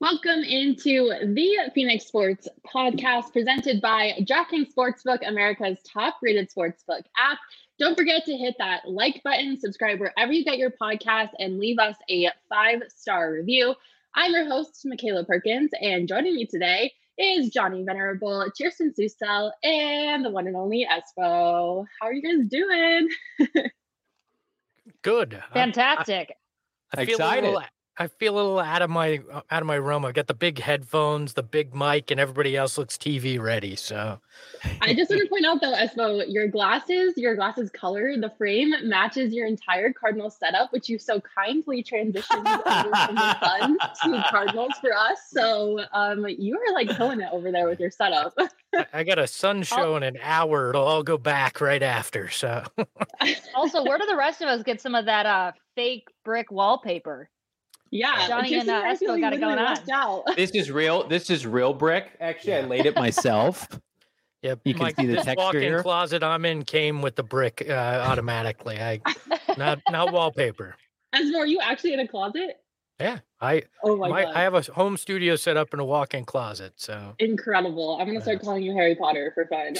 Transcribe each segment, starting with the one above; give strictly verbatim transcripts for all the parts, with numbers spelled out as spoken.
Welcome into the Phoenix Sports Podcast presented by DraftKings Sportsbook, America's top-rated sportsbook app. Don't forget to hit that like button, subscribe wherever you get your podcast, and leave us a five-star review. I'm your host, Michaela Perkins, and joining me today is Johnny Venerable, Kirsten Susel, and the one and only Espo. How are you guys doing? Good. Fantastic. I, I feel Excited. A little, I feel a little out of my out of my realm. I've got the big headphones, the big mic, and everybody else looks T V ready. So, I just want to point out though, Espo, your glasses, your glasses color, the frame matches your entire Cardinals setup, which you so kindly transitioned over from the Suns to Cardinals for us. So, um, you are like killing it over there with your setup. I, I got a Sun show in an hour. It'll all go back right after. So, also, where do the rest of us get some of that uh fake brick wallpaper? Yeah, Johnny and uh, Espo got it going on. This is real. This is real brick. Actually, I laid it myself. yeah, You can my, see the this texture walk-in here. closet I'm in came with the brick uh, automatically. I not not wallpaper. Espo, are you actually in a closet? Yeah, I Oh my, my, god, I have a home studio set up in a walk-in closet. So incredible! I'm gonna start Yeah. calling you Harry Potter for fun.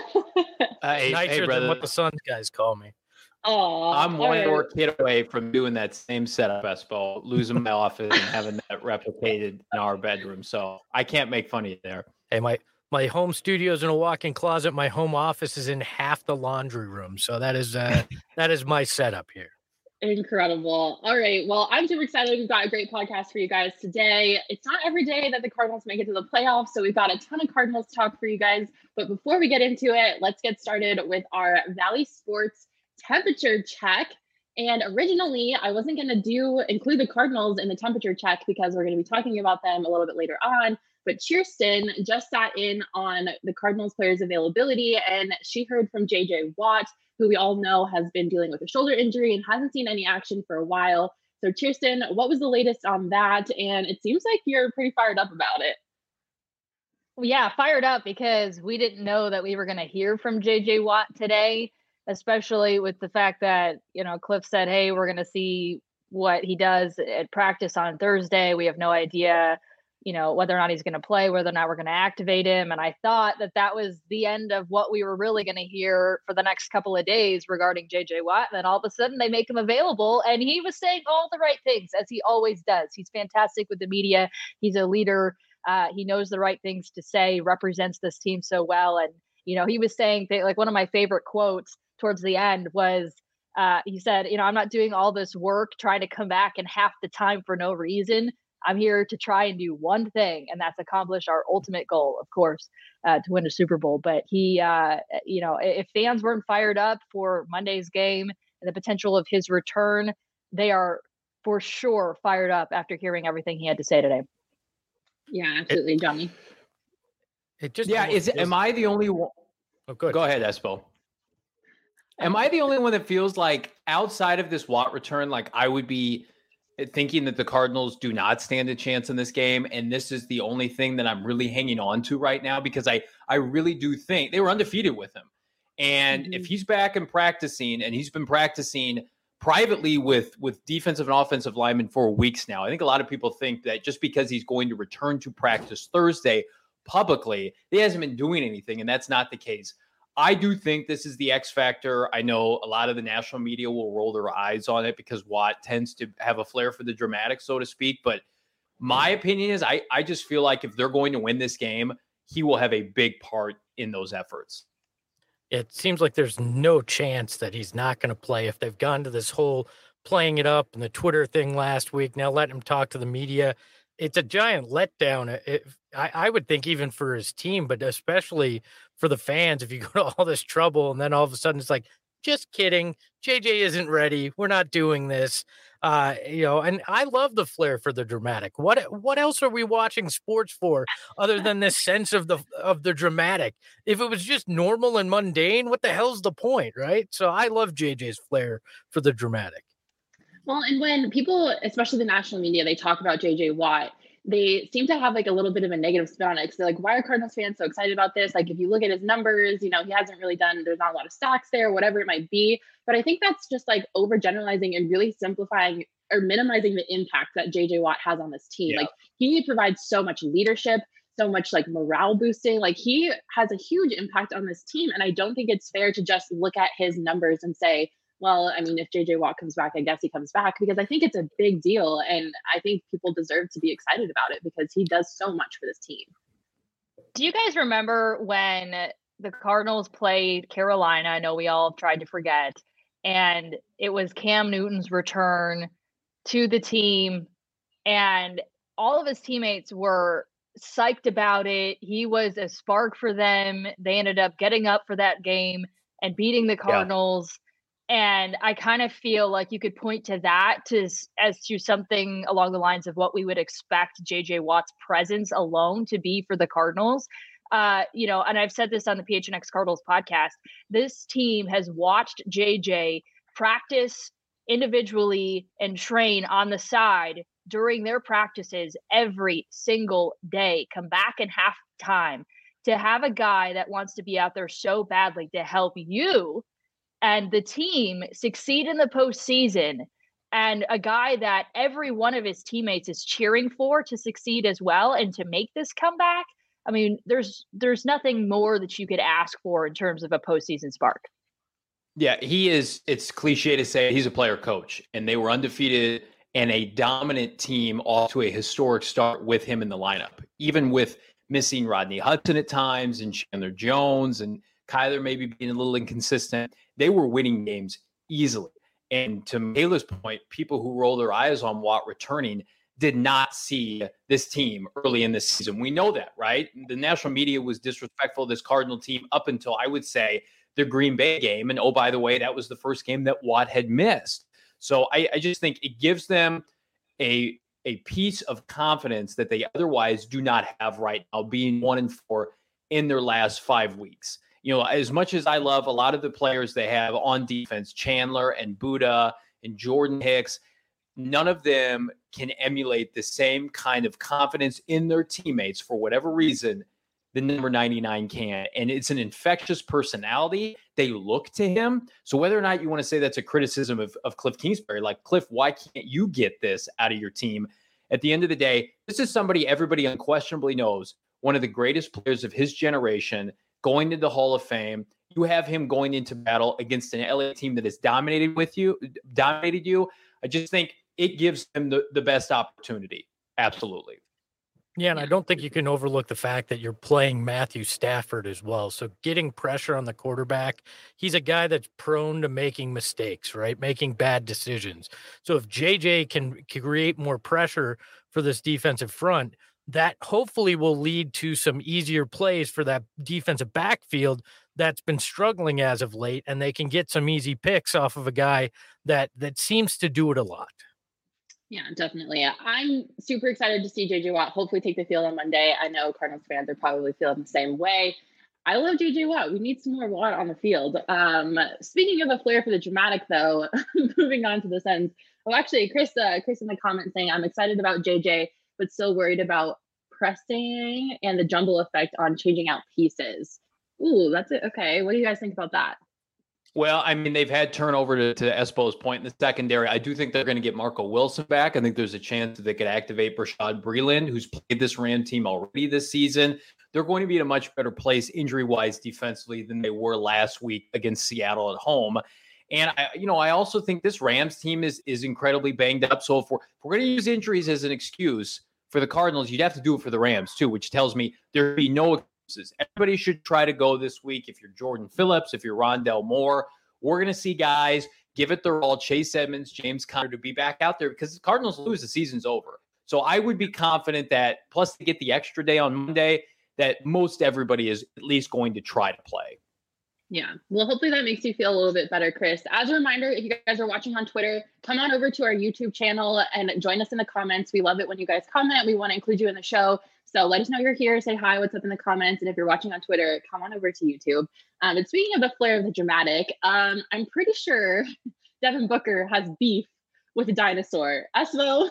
Uh, hey, nicer hey, than brother. what the Suns guys call me. Oh, I'm one more kid away from doing that same setup, Espo, losing my office and having that replicated in our bedroom. So I can't make fun of you there. Hey, my my home studio's in a walk-in closet. My home office is in half the laundry room. So that is uh that is my setup here. Incredible. All right. Well, I'm super excited. We've got a great podcast for you guys today. It's not every day that the Cardinals make it to the playoffs, so we've got a ton of Cardinals talk for you guys. But before we get into it, let's get started with our Valley Sports temperature check. And originally, I wasn't going to do include the Cardinals in the temperature check because we're going to be talking about them a little bit later on. But Kirsten just sat in on the Cardinals players' availability, and she heard from J J Watt, who we all know has been dealing with a shoulder injury and hasn't seen any action for a while. So Kirsten, what was the latest on that? And it seems like you're pretty fired up about it. Well, yeah, fired up because we didn't know that we were going to hear from J J Watt today, especially with the fact that, you know, Cliff said, hey, we're going to see what he does at practice on Thursday. We have no idea, you know, whether or not he's going to play, whether or not we're going to activate him. And I thought that that was the end of what we were really going to hear for the next couple of days regarding J J Watt. And then all of a sudden they make him available, and he was saying all the right things, as he always does. He's fantastic with the media. He's a leader. Uh, he knows the right things to say, represents this team so well. And, you know, he was saying, th- like, one of my favorite quotes towards the end was, uh, he said, you know, I'm not doing all this work trying to come back in half the time for no reason. I'm here to try and do one thing, and that's accomplish our ultimate goal, of course, uh, to win a Super Bowl. But he, uh, you know, if fans weren't fired up for Monday's game and the potential of his return, they are for sure fired up after hearing everything he had to say today. Yeah, absolutely, It- Johnny. It just Yeah, almost is it, feels- am I the only one? Oh, good. Go ahead, Espo. Am I the only one that feels like outside of this Watt return, like I would be thinking that the Cardinals do not stand a chance in this game, and this is the only thing that I'm really hanging on to right now, because I I really do think they were undefeated with him. And Mhm. if he's back and practicing, and he's been practicing privately with with defensive and offensive linemen for weeks now, I think a lot of people think that just because he's going to return to practice Thursday publicly, he hasn't been doing anything, and that's not the case. I do think this is the X factor. I know a lot of the national media will roll their eyes on it because Watt tends to have a flair for the dramatic, so to speak. But my opinion is I, I just feel like if they're going to win this game, he will have a big part in those efforts. It seems like there's no chance that he's not going to play if they've gone to this whole playing it up and the Twitter thing last week. Now letting him talk to the media. It's a giant letdown. It, I, I would think even for his team, but especially for the fans, if you go to all this trouble and then all of a sudden it's like, just kidding. J J isn't ready. We're not doing this. Uh, you know, and I love the flair for the dramatic. What what else are we watching sports for other than this sense of the of the dramatic? If it was just normal and mundane, what the hell's the point, right? So I love J J's flair for the dramatic. Well, and when people, especially the national media, they talk about J J Watt, they seem to have like a little bit of a negative spin on it. Because they're like, why are Cardinals fans so excited about this? Like, if you look at his numbers, you know, he hasn't really done, there's not a lot of stocks there, whatever it might be. But I think that's just like overgeneralizing and really simplifying or minimizing the impact that J J Watt has on this team. Yeah. Like he provides so much leadership, so much like morale boosting. Like he has a huge impact on this team. And I don't think it's fair to just look at his numbers and say, well, I mean, if J J Watt comes back, I guess he comes back, because I think it's a big deal. And I think people deserve to be excited about it because he does so much for this team. Do you guys remember when the Cardinals played Carolina? I know we all tried to forget. And it was Cam Newton's return to the team. And all of his teammates were psyched about it. He was a spark for them. They ended up getting up for that game and beating the Cardinals. Yeah. And I kind of feel like you could point to that to, as to something along the lines of what we would expect J J Watt's presence alone to be for the Cardinals. Uh, you know, and I've said this on the P H N X Cardinals podcast, this team has watched J J practice individually and train on the side during their practices every single day, come back in halftime, to have a guy that wants to be out there so badly to help you and the team succeed in the postseason, and a guy that every one of his teammates is cheering for to succeed as well and to make this comeback. I mean, there's there's nothing more that you could ask for in terms of a postseason spark. Yeah, he is. It's cliche to say he's a player coach, and they were undefeated and a dominant team off to a historic start with him in the lineup, even with missing Rodney Hudson at times and Chandler Jones and Kyler maybe being a little inconsistent. They were winning games easily. And to Michaela's point, people who roll their eyes on Watt returning did not see this team early in this season. We know that, right? The national media was disrespectful of this Cardinal team up until, I would say, the Green Bay game. And oh, by the way, that was the first game that Watt had missed. So I, I just think it gives them a, a piece of confidence that they otherwise do not have right now, being one and four in their last five weeks. You know, as much as I love a lot of the players they have on defense, Chandler and Buddha and Jordan Hicks, none of them can emulate the same kind of confidence in their teammates for whatever reason the number ninety-nine can. And it's an infectious personality. They look to him. So whether or not you want to say that's a criticism of, of Cliff Kingsbury, like, Cliff, why can't you get this out of your team? At the end of the day, this is somebody everybody unquestionably knows, one of the greatest players of his generation, going to the Hall of Fame. You have him going into battle against an L A team that has dominated with you, dominated you. I just think it gives him the, the best opportunity. Absolutely. Yeah, and I don't think you can overlook the fact that you're playing Matthew Stafford as well. So getting pressure on the quarterback, he's a guy that's prone to making mistakes, right? Making bad decisions. So if J J can, can create more pressure for this defensive front, that hopefully will lead to some easier plays for that defensive backfield that's been struggling as of late, and they can get some easy picks off of a guy that that seems to do it a lot. Yeah, definitely. I'm super excited to see J J Watt hopefully take the field on Monday. I know Cardinals fans are probably feeling the same way. I love J J Watt. We need some more Watt on the field. Um, speaking of a flair for the dramatic, though, moving on to the Sens. Oh, actually, Chris, uh, Chris in the comment saying, I'm excited about J J, but still worried about pressing and the jumble effect on changing out pieces. Ooh, that's it. Okay. What do you guys think about that? Well, I mean, they've had turnover to, to Espo's point in the secondary. I do think they're going to get Marco Wilson back. I think there's a chance that they could activate Brashad Breeland, who's played this Ram team already this season. They're going to be in a much better place injury-wise defensively than they were last week against Seattle at home. And, I, you know, I also think this Rams team is is incredibly banged up. So if we're, if we're going to use injuries as an excuse for the Cardinals, you'd have to do it for the Rams too, which tells me there'd be no excuses. Everybody should try to go this week. If you're Jordan Phillips, if you're Rondell Moore, we're going to see guys give it their all. Chase Edmonds, James Conner to be back out there, because the Cardinals lose, the season's over. So I would be confident that, plus to get the extra day on Monday, that most everybody is at least going to try to play. Yeah. Well, hopefully that makes you feel a little bit better, Chris. As a reminder, if you guys are watching on Twitter, come on over to our YouTube channel and join us in the comments. We love it when you guys comment. We want to include you in the show. So let us know you're here. Say hi, what's up in the comments. And if you're watching on Twitter, come on over to YouTube. Um, and speaking of the flair of the dramatic, um, I'm pretty sure Devin Booker has beef with a dinosaur. Espo,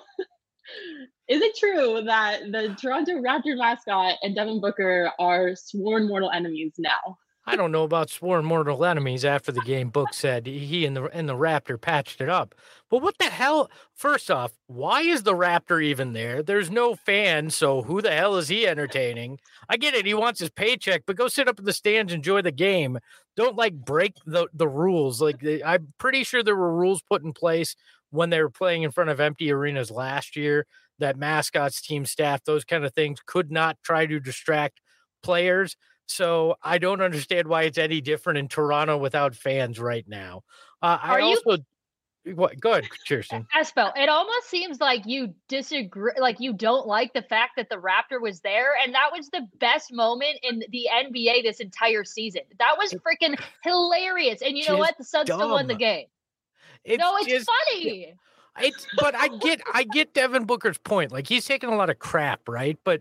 is it true that the Toronto Raptor mascot and Devin Booker are sworn mortal enemies now? I don't know about sworn mortal enemies after the game. Book said he and the and the Raptor patched it up. But what the hell? First off, why is the Raptor even there? There's no fans, so who the hell is he entertaining? I get it. He wants his paycheck, but go sit up in the stands, enjoy the game. Don't like break the, the rules. Like I'm pretty sure there were rules put in place when they were playing in front of empty arenas last year that mascots, team staff, those kind of things could not try to distract players. So I don't understand why it's any different in Toronto without fans right now. Uh, I Are you- also what, go ahead, Kirsten. Espo, it almost seems like you disagree, like you don't like the fact that the Raptor was there, and that was the best moment in the N B A this entire season. That was freaking hilarious. And you know Just what? The Suns still won the dumb. game. It's no, it's just, funny. It's but I get I get Devin Booker's point. Like he's taking a lot of crap, right? But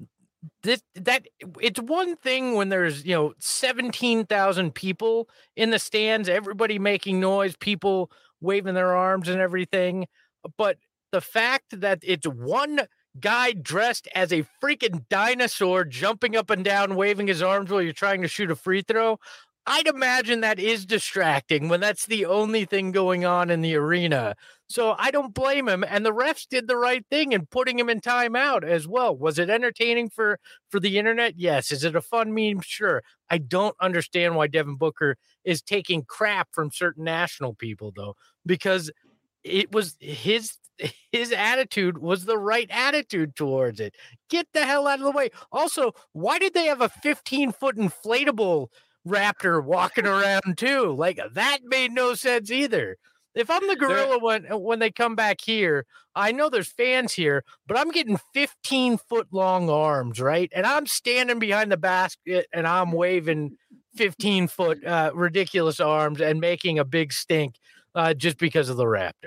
this that it's one thing when there's, you know, seventeen thousand people in the stands, everybody making noise, people waving their arms and everything. But the fact that it's one guy dressed as a freaking dinosaur jumping up and down, waving his arms while you're trying to shoot a free throw, I'd imagine that is distracting when that's the only thing going on in the arena. So I don't blame him. And the refs did the right thing in putting him in timeout as well. Was it entertaining for, for the internet? Yes. Is it a fun meme? Sure. I don't understand why Devin Booker is taking crap from certain national people, though, because it was his his attitude was the right attitude towards it. Get the hell out of the way. Also, why did they have a fifteen foot inflatable Raptor walking around too? Like that made no sense either. If I'm the gorilla when when they come back here, I know there's fans here, but I'm getting fifteen foot long arms, right? And I'm standing behind the basket and I'm waving fifteen foot uh, ridiculous arms and making a big stink uh, just because of the Raptor.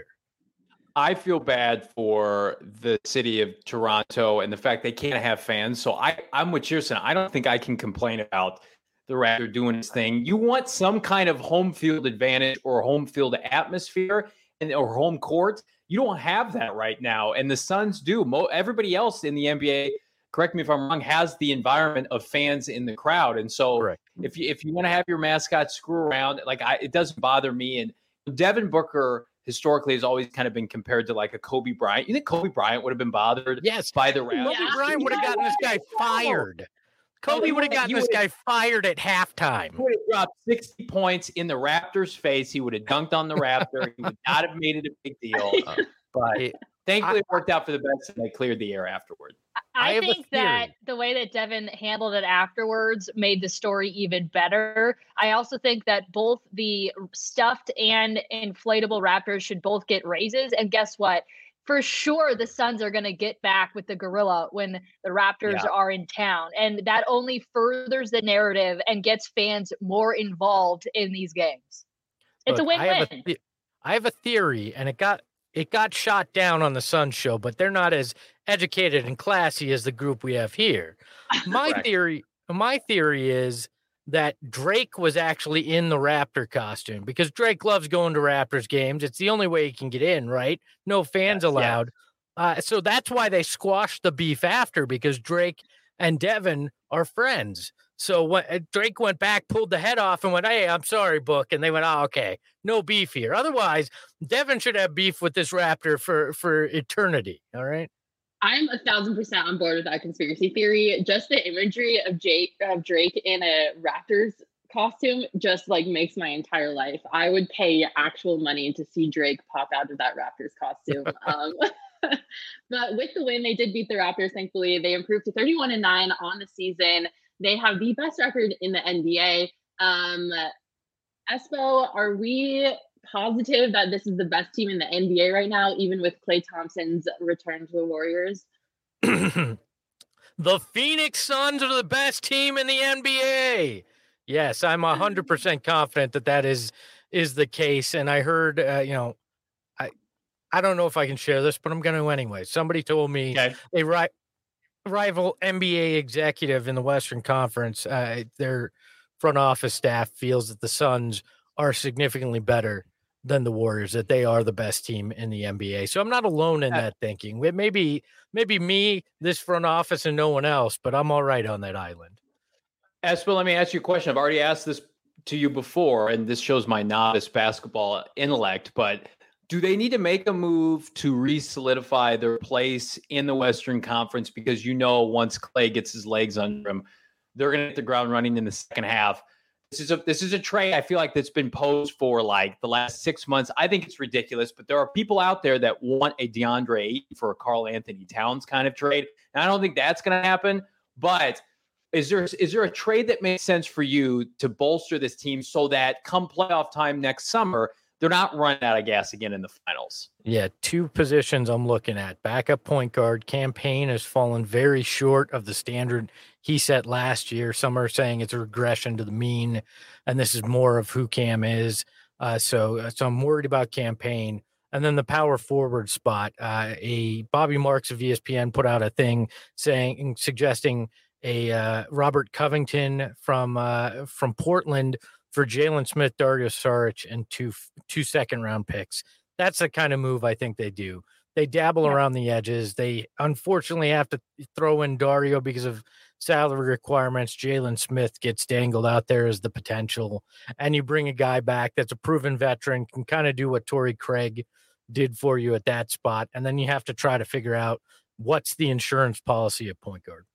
I feel bad for the city of Toronto and the fact they can't have fans. So I, I'm with Kirsten. I don't think I can complain about the Raptor doing his thing. You want some kind of home field advantage or home field atmosphere and or home court. You don't have that right now, and the Suns do. Mo- everybody else in the N B A, correct me if I'm wrong, has the environment of fans in the crowd. And so Correct. if you if you want to have your mascot screw around, like I, it doesn't bother me. And Devin Booker historically has always kind of been compared to like a Kobe Bryant. You think Kobe Bryant would have been bothered Yes. by the Kobe Raptors? Yeah. Bryant would have gotten this guy fired. Kobe he would have would've- gotten he this would've- guy fired at halftime. He would have dropped sixty points in the Raptors' face. He would have dunked on the Raptor. He would not have made it a big deal. Uh, but It- thankfully, I- it worked out for the best, and they cleared the air afterward. I I, have a think that theory. the way that Devin handled it afterwards made the story even better. I also think that both the stuffed and inflatable Raptors should both get raises. And guess what? For sure, the Suns are going to get back with the gorilla when the Raptors Yeah. are in town. And that only furthers the narrative and gets fans more involved in these games. It's Look, a I have win-win. a, the- I have a theory, and it got it got shot down on the Sun show, but they're not as educated and classy as the group we have here. My Correct. theory, my theory is that Drake was actually in the Raptor costume because Drake loves going to Raptors games. It's the only way he can get in, right? No fans Yes, yeah. allowed. Uh, so that's why they squashed the beef after, because Drake and Devin are friends. So when uh, Drake went back, pulled the head off and went, "Hey, I'm sorry, Book." And they went, "Oh, okay. No beef here." Otherwise, Devin should have beef with this Raptor for, for eternity. All right. I'm a thousand percent on board with that conspiracy theory. Just the imagery of Jake of Drake in a Raptors costume just like makes my entire life. I would pay actual money to see Drake pop out of that Raptors costume. um, but with the win, they did beat the Raptors. Thankfully, they improved to thirty-one and nine on the season. They have the best record in the N B A. Um, Espo, are we positive that this is the best team in the N B A right now, even with Klay Thompson's return to the Warriors? The Phoenix Suns are the best team in the N B A. Yes, I'm one hundred percent confident that that is is the case. And I heard, uh, you know, I I don't know if I can share this, but I'm going to anyway. Somebody told me Okay. a ri- rival N B A executive in the Western Conference, uh, their front office staff feels that the Suns are significantly better than the Warriors, that they are the best team in the N B A. So I'm not alone in Uh, that thinking. It may be, maybe me, this front office, and no one else, but I'm all right on that island. Espo, let me ask you a question. I've already asked this to you before, and this shows my novice basketball intellect, but do they need to make a move to re-solidify their place in the Western Conference? Because you know once Klay gets his legs under him, they're going to hit the ground running in the second half. This is a this is a trade I feel like that's been posed for like the last six months. I think it's ridiculous, but there are people out there that want a DeAndre Ayton for a Karl Anthony Towns kind of trade, and I don't think that's going to happen. But is there is there a trade that makes sense for you to bolster this team so that come playoff time next summer, they're not running out of gas again in the finals? Yeah, two positions I'm looking at. Backup point guard. Cam Payne has fallen very short of the standard he set last year. Some are saying it's a regression to the mean, and this is more of who Cam is. Uh, so, so I'm worried about Cam Payne. And then the power forward spot. Uh, a Bobby Marks of E S P N put out a thing saying, suggesting a uh, Robert Covington from uh, from Portland for Jalen Smith, Dario Saric, and two two second round picks. That's the kind of move I think they do. They dabble yeah. around the edges. They unfortunately have to throw in Dario because of salary requirements. Jalen Smith gets dangled out there as the potential, and you bring a guy back that's a proven veteran, can kind of do what Torrey Craig did for you at that spot, and then you have to try to figure out what's the insurance policy at point guard.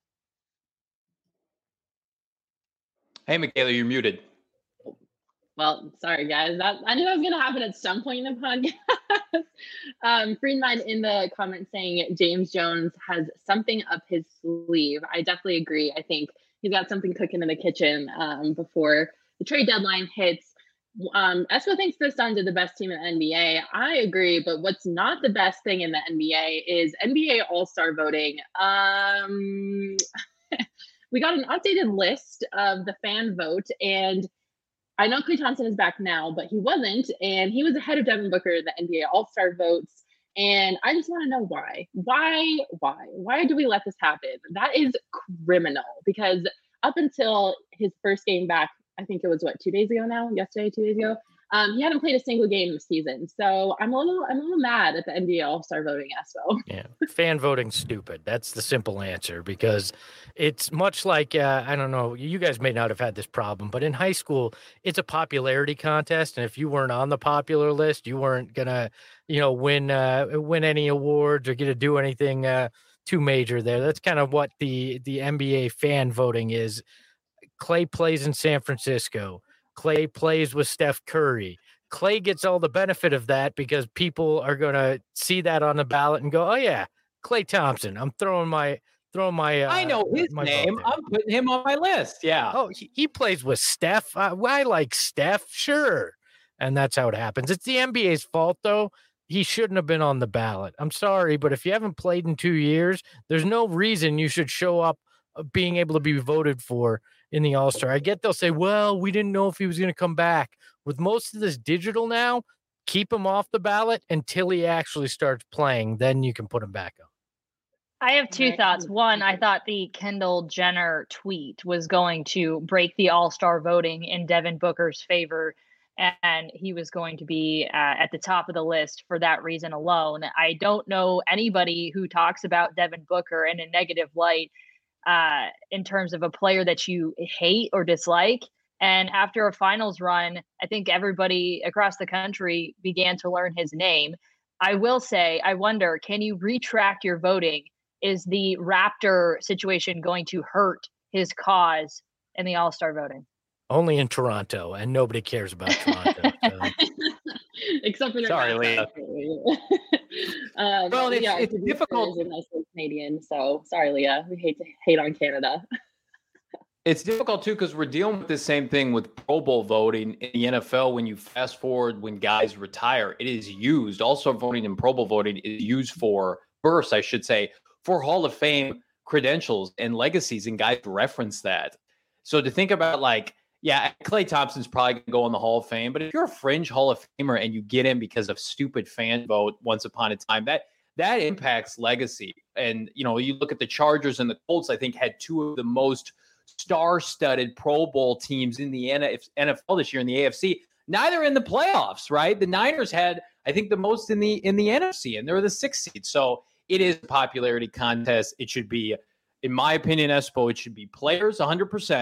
Hey, Michaela, you're muted. Well, sorry, guys. That I knew that was going to happen at some point in the podcast. um, Friedman in the comments saying James Jones has something up his sleeve. I definitely agree. I think he's got something cooking in the kitchen um, before the trade deadline hits. Um, Espo thinks the Suns are the best team in the N B A. I agree, but what's not the best thing in the N B A is N B A All-Star voting. Um, we got an updated list of the fan vote, and I know Klay Thompson is back now, but he wasn't, and he was ahead of Devin Booker in the N B A All-Star votes. And I just want to know why. Why? Why? Why do we let this happen? That is criminal, because up until his first game back, I think it was what, two days ago now? Yesterday, two days ago. Um, he hadn't played a single game this season, so I'm a little, I'm a little mad at the N B A All-Star voting, Espo. Yeah, fan voting's stupid. That's the simple answer, because it's much like uh, I don't know. You guys may not have had this problem, but in high school, it's a popularity contest, and if you weren't on the popular list, you weren't gonna, you know, win uh, win any awards or get to do anything uh, too major there. That's kind of what the the N B A fan voting is. Klay plays in San Francisco. Klay plays with Steph Curry. Klay gets all the benefit of that because people are going to see that on the ballot and go, "Oh yeah, Klay Thompson. I'm throwing my throwing my. Uh, I know his name. I'm putting him on my list." Yeah. Oh, he, he plays with Steph. Uh, I like Steph, sure, and that's how it happens. It's the N B A's fault, though. He shouldn't have been on the ballot. I'm sorry, but if you haven't played in two years, there's no reason you should show up being able to be voted for in the All-Star. I get they'll say, well, we didn't know if he was going to come back. With most of this digital now, keep him off the ballot until he actually starts playing. Then you can put him back on. I have two thoughts. One, I thought the Kendall Jenner tweet was going to break the All-Star voting in Devin Booker's favor, and he was going to be uh, at the top of the list for that reason alone. I don't know anybody who talks about Devin Booker in a negative light uh, in terms of a player that you hate or dislike. And after a finals run, I think everybody across the country began to learn his name. I will say, I wonder, can you retract your voting? Is the Raptor situation going to hurt his cause in the All-Star voting? Only in Toronto, and nobody cares about Toronto. So. Except for sorry, Leah. um, well, it's, yeah, it's difficult. Nice Canadian, so sorry, Leah. We hate to hate on Canada. It's difficult too because we're dealing with the same thing with Pro Bowl voting in the N F L. When you fast forward, when guys retire, it is used. Also, voting in Pro Bowl voting is used for bursts, I should say, for Hall of Fame credentials and legacies, and guys reference that. So to think about, like, yeah, Klay Thompson's probably going to go in the Hall of Fame, but if you're a fringe Hall of Famer and you get in because of stupid fan vote once upon a time, that that impacts legacy. And, you know, you look at the Chargers and the Colts, I think, had two of the most star-studded Pro Bowl teams in the N F L this year in the A F C. Neither in the playoffs, right? The Niners had, I think, the most in the in the N F C, and they're the sixth seed. So it is a popularity contest. It should be, in my opinion, Espo, it should be players one hundred percent.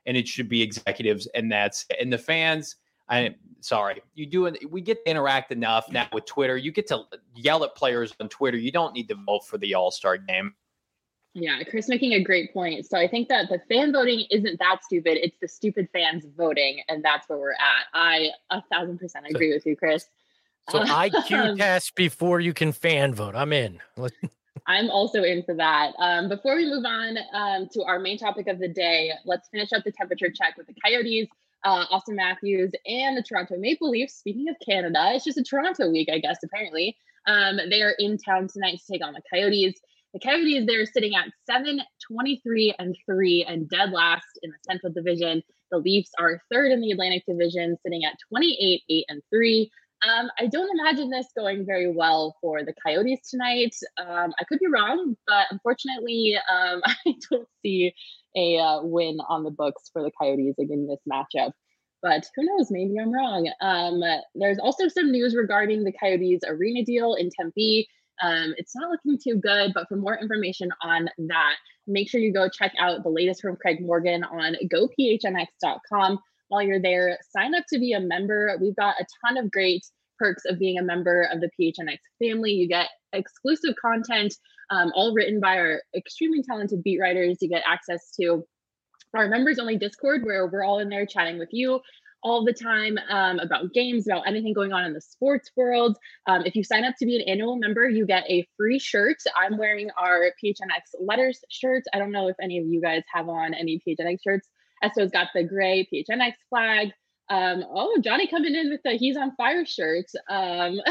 and it should be executives, and that's and the fans. I sorry, you do it. We get to interact enough now with Twitter. You get to yell at players on Twitter. You don't need to vote for the All-Star game. Yeah, Chris making a great point. So I think that the fan voting isn't that stupid. It's the stupid fans voting, and that's where we're at. I a thousand percent agree so, with you, Chris. So um, I Q test before you can fan vote. I'm in. I'm also in for that. Um, before we move on um, to our main topic of the day, let's finish up the temperature check with the Coyotes, uh, Austin Matthews, and the Toronto Maple Leafs. Speaking of Canada, it's just a Toronto week, I guess, apparently. Um, they are in town tonight to take on the Coyotes. The Coyotes, they're sitting at seven, twenty-three, and three, and dead last in the Central Division. The Leafs are third in the Atlantic Division, sitting at twenty-eight, eight, and three. Um, I don't imagine this going very well for the Coyotes tonight. Um, I could be wrong, but unfortunately, um, I don't see a uh, win on the books for the Coyotes in this matchup. But who knows? Maybe I'm wrong. Um, there's also some news regarding the Coyotes arena deal in Tempe. Um, it's not looking too good, but for more information on that, make sure you go check out the latest from Craig Morgan on go p h n x dot com. While you're there, sign up to be a member. We've got a ton of great perks of being a member of the P H N X family. You get exclusive content, um, all written by our extremely talented beat writers. You get access to our members only Discord, where we're all in there chatting with you all the time um, about games, about anything going on in the sports world. Um, if you sign up to be an annual member, you get a free shirt. I'm wearing our P H N X letters shirt. I don't know if any of you guys have on any P H N X shirts. Esso's got the gray P H N X flag. Um, oh, Johnny coming in with the He's on Fire shirt. Um,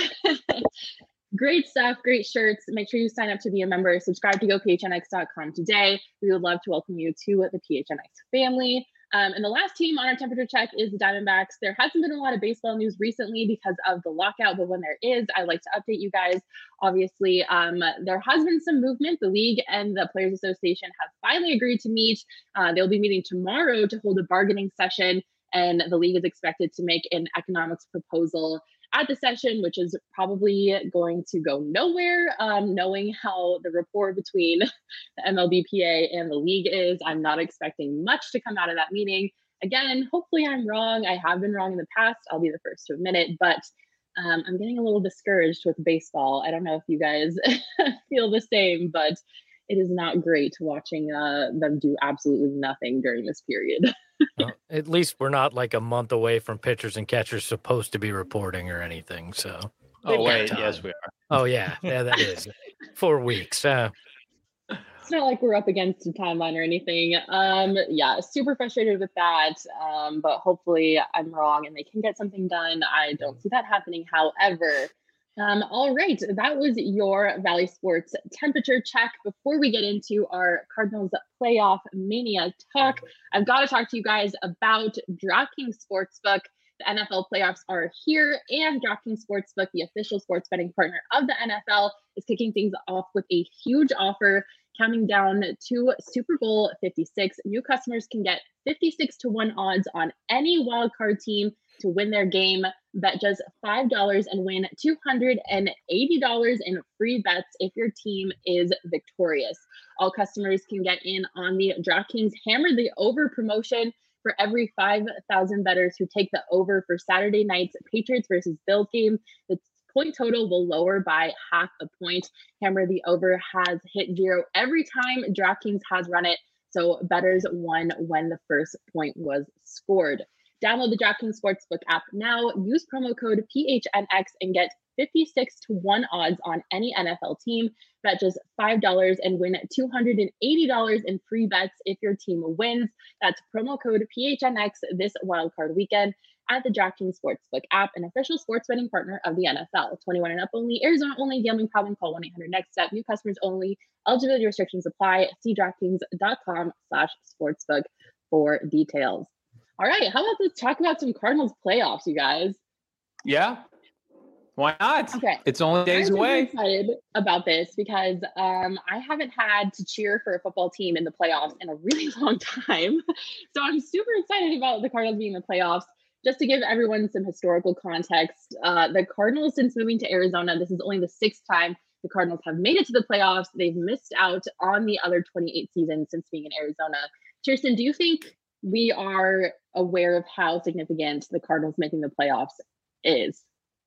great stuff, great shirts. Make sure you sign up to be a member. Subscribe to go p h n x dot com today. We would love to welcome you to the P H N X family. Um, and the last team on our temperature check is the Diamondbacks. There hasn't been a lot of baseball news recently because of the lockout, but when there is, I like to update you guys. Obviously, um, there has been some movement. The league and the Players Association have finally agreed to meet. Uh, they'll be meeting tomorrow to hold a bargaining session, and the league is expected to make an economics proposal at the session, which is probably going to go nowhere. Um, knowing how the rapport between the M L B P A and the league is, I'm not expecting much to come out of that meeting. Again, hopefully I'm wrong. I have been wrong in the past. I'll be the first to admit it, but um, I'm getting a little discouraged with baseball. I don't know if you guys feel the same, but it is not great watching uh, them do absolutely nothing during this period. Well, at least we're not like a month away from pitchers and catchers supposed to be reporting or anything. So, oh wait, yes, we are. Oh yeah, yeah, that is four weeks. Uh, it's not like we're up against a timeline or anything. Um, yeah, super frustrated with that. Um, but hopefully I'm wrong and they can get something done. I don't see that happening. However. Um, all right, that was your Valley Sports temperature check. Before we get into our Cardinals playoff mania talk, I've got to talk to you guys about DraftKings Sportsbook. The N F L playoffs are here, and DraftKings Sportsbook, the official sports betting partner of the N F L, is kicking things off with a huge offer. Counting down to Super Bowl fifty-six, new customers can get fifty-six to one odds on any wildcard team to win their game. Bet just five dollars and win two hundred eighty dollars in free bets if your team is victorious. All customers can get in on the DraftKings Hammer the Over promotion. For every five thousand bettors who take the over for Saturday night's Patriots versus Bills game, the point total will lower by half a point. Hammer the Over has hit zero every time DraftKings has run it, so bettors won when the first point was scored. Download the DraftKings Sportsbook app now. Use promo code P H N X and get fifty-six to one odds on any N F L team. Bet just five dollars and win two hundred eighty dollars in free bets if your team wins. That's promo code P H N X this wildcard weekend at the DraftKings Sportsbook app, an official sports betting partner of the N F L. twenty-one and up only, Arizona only, gambling problem, call one eight hundred next step. New customers only, eligibility restrictions apply. See DraftKings.com slash sportsbook for details. All right, how about let's talk about some Cardinals playoffs, you guys? Yeah, why not? Okay, it's only days I'm away. I'm excited about this because um, I haven't had to cheer for a football team in the playoffs in a really long time. So I'm super excited about the Cardinals being in the playoffs. Just to give everyone some historical context, uh, the Cardinals, since moving to Arizona, this is only the sixth time the Cardinals have made it to the playoffs. They've missed out on the other twenty-eight seasons since being in Arizona. Kirsten, do you think we are aware of how significant the Cardinals making the playoffs is?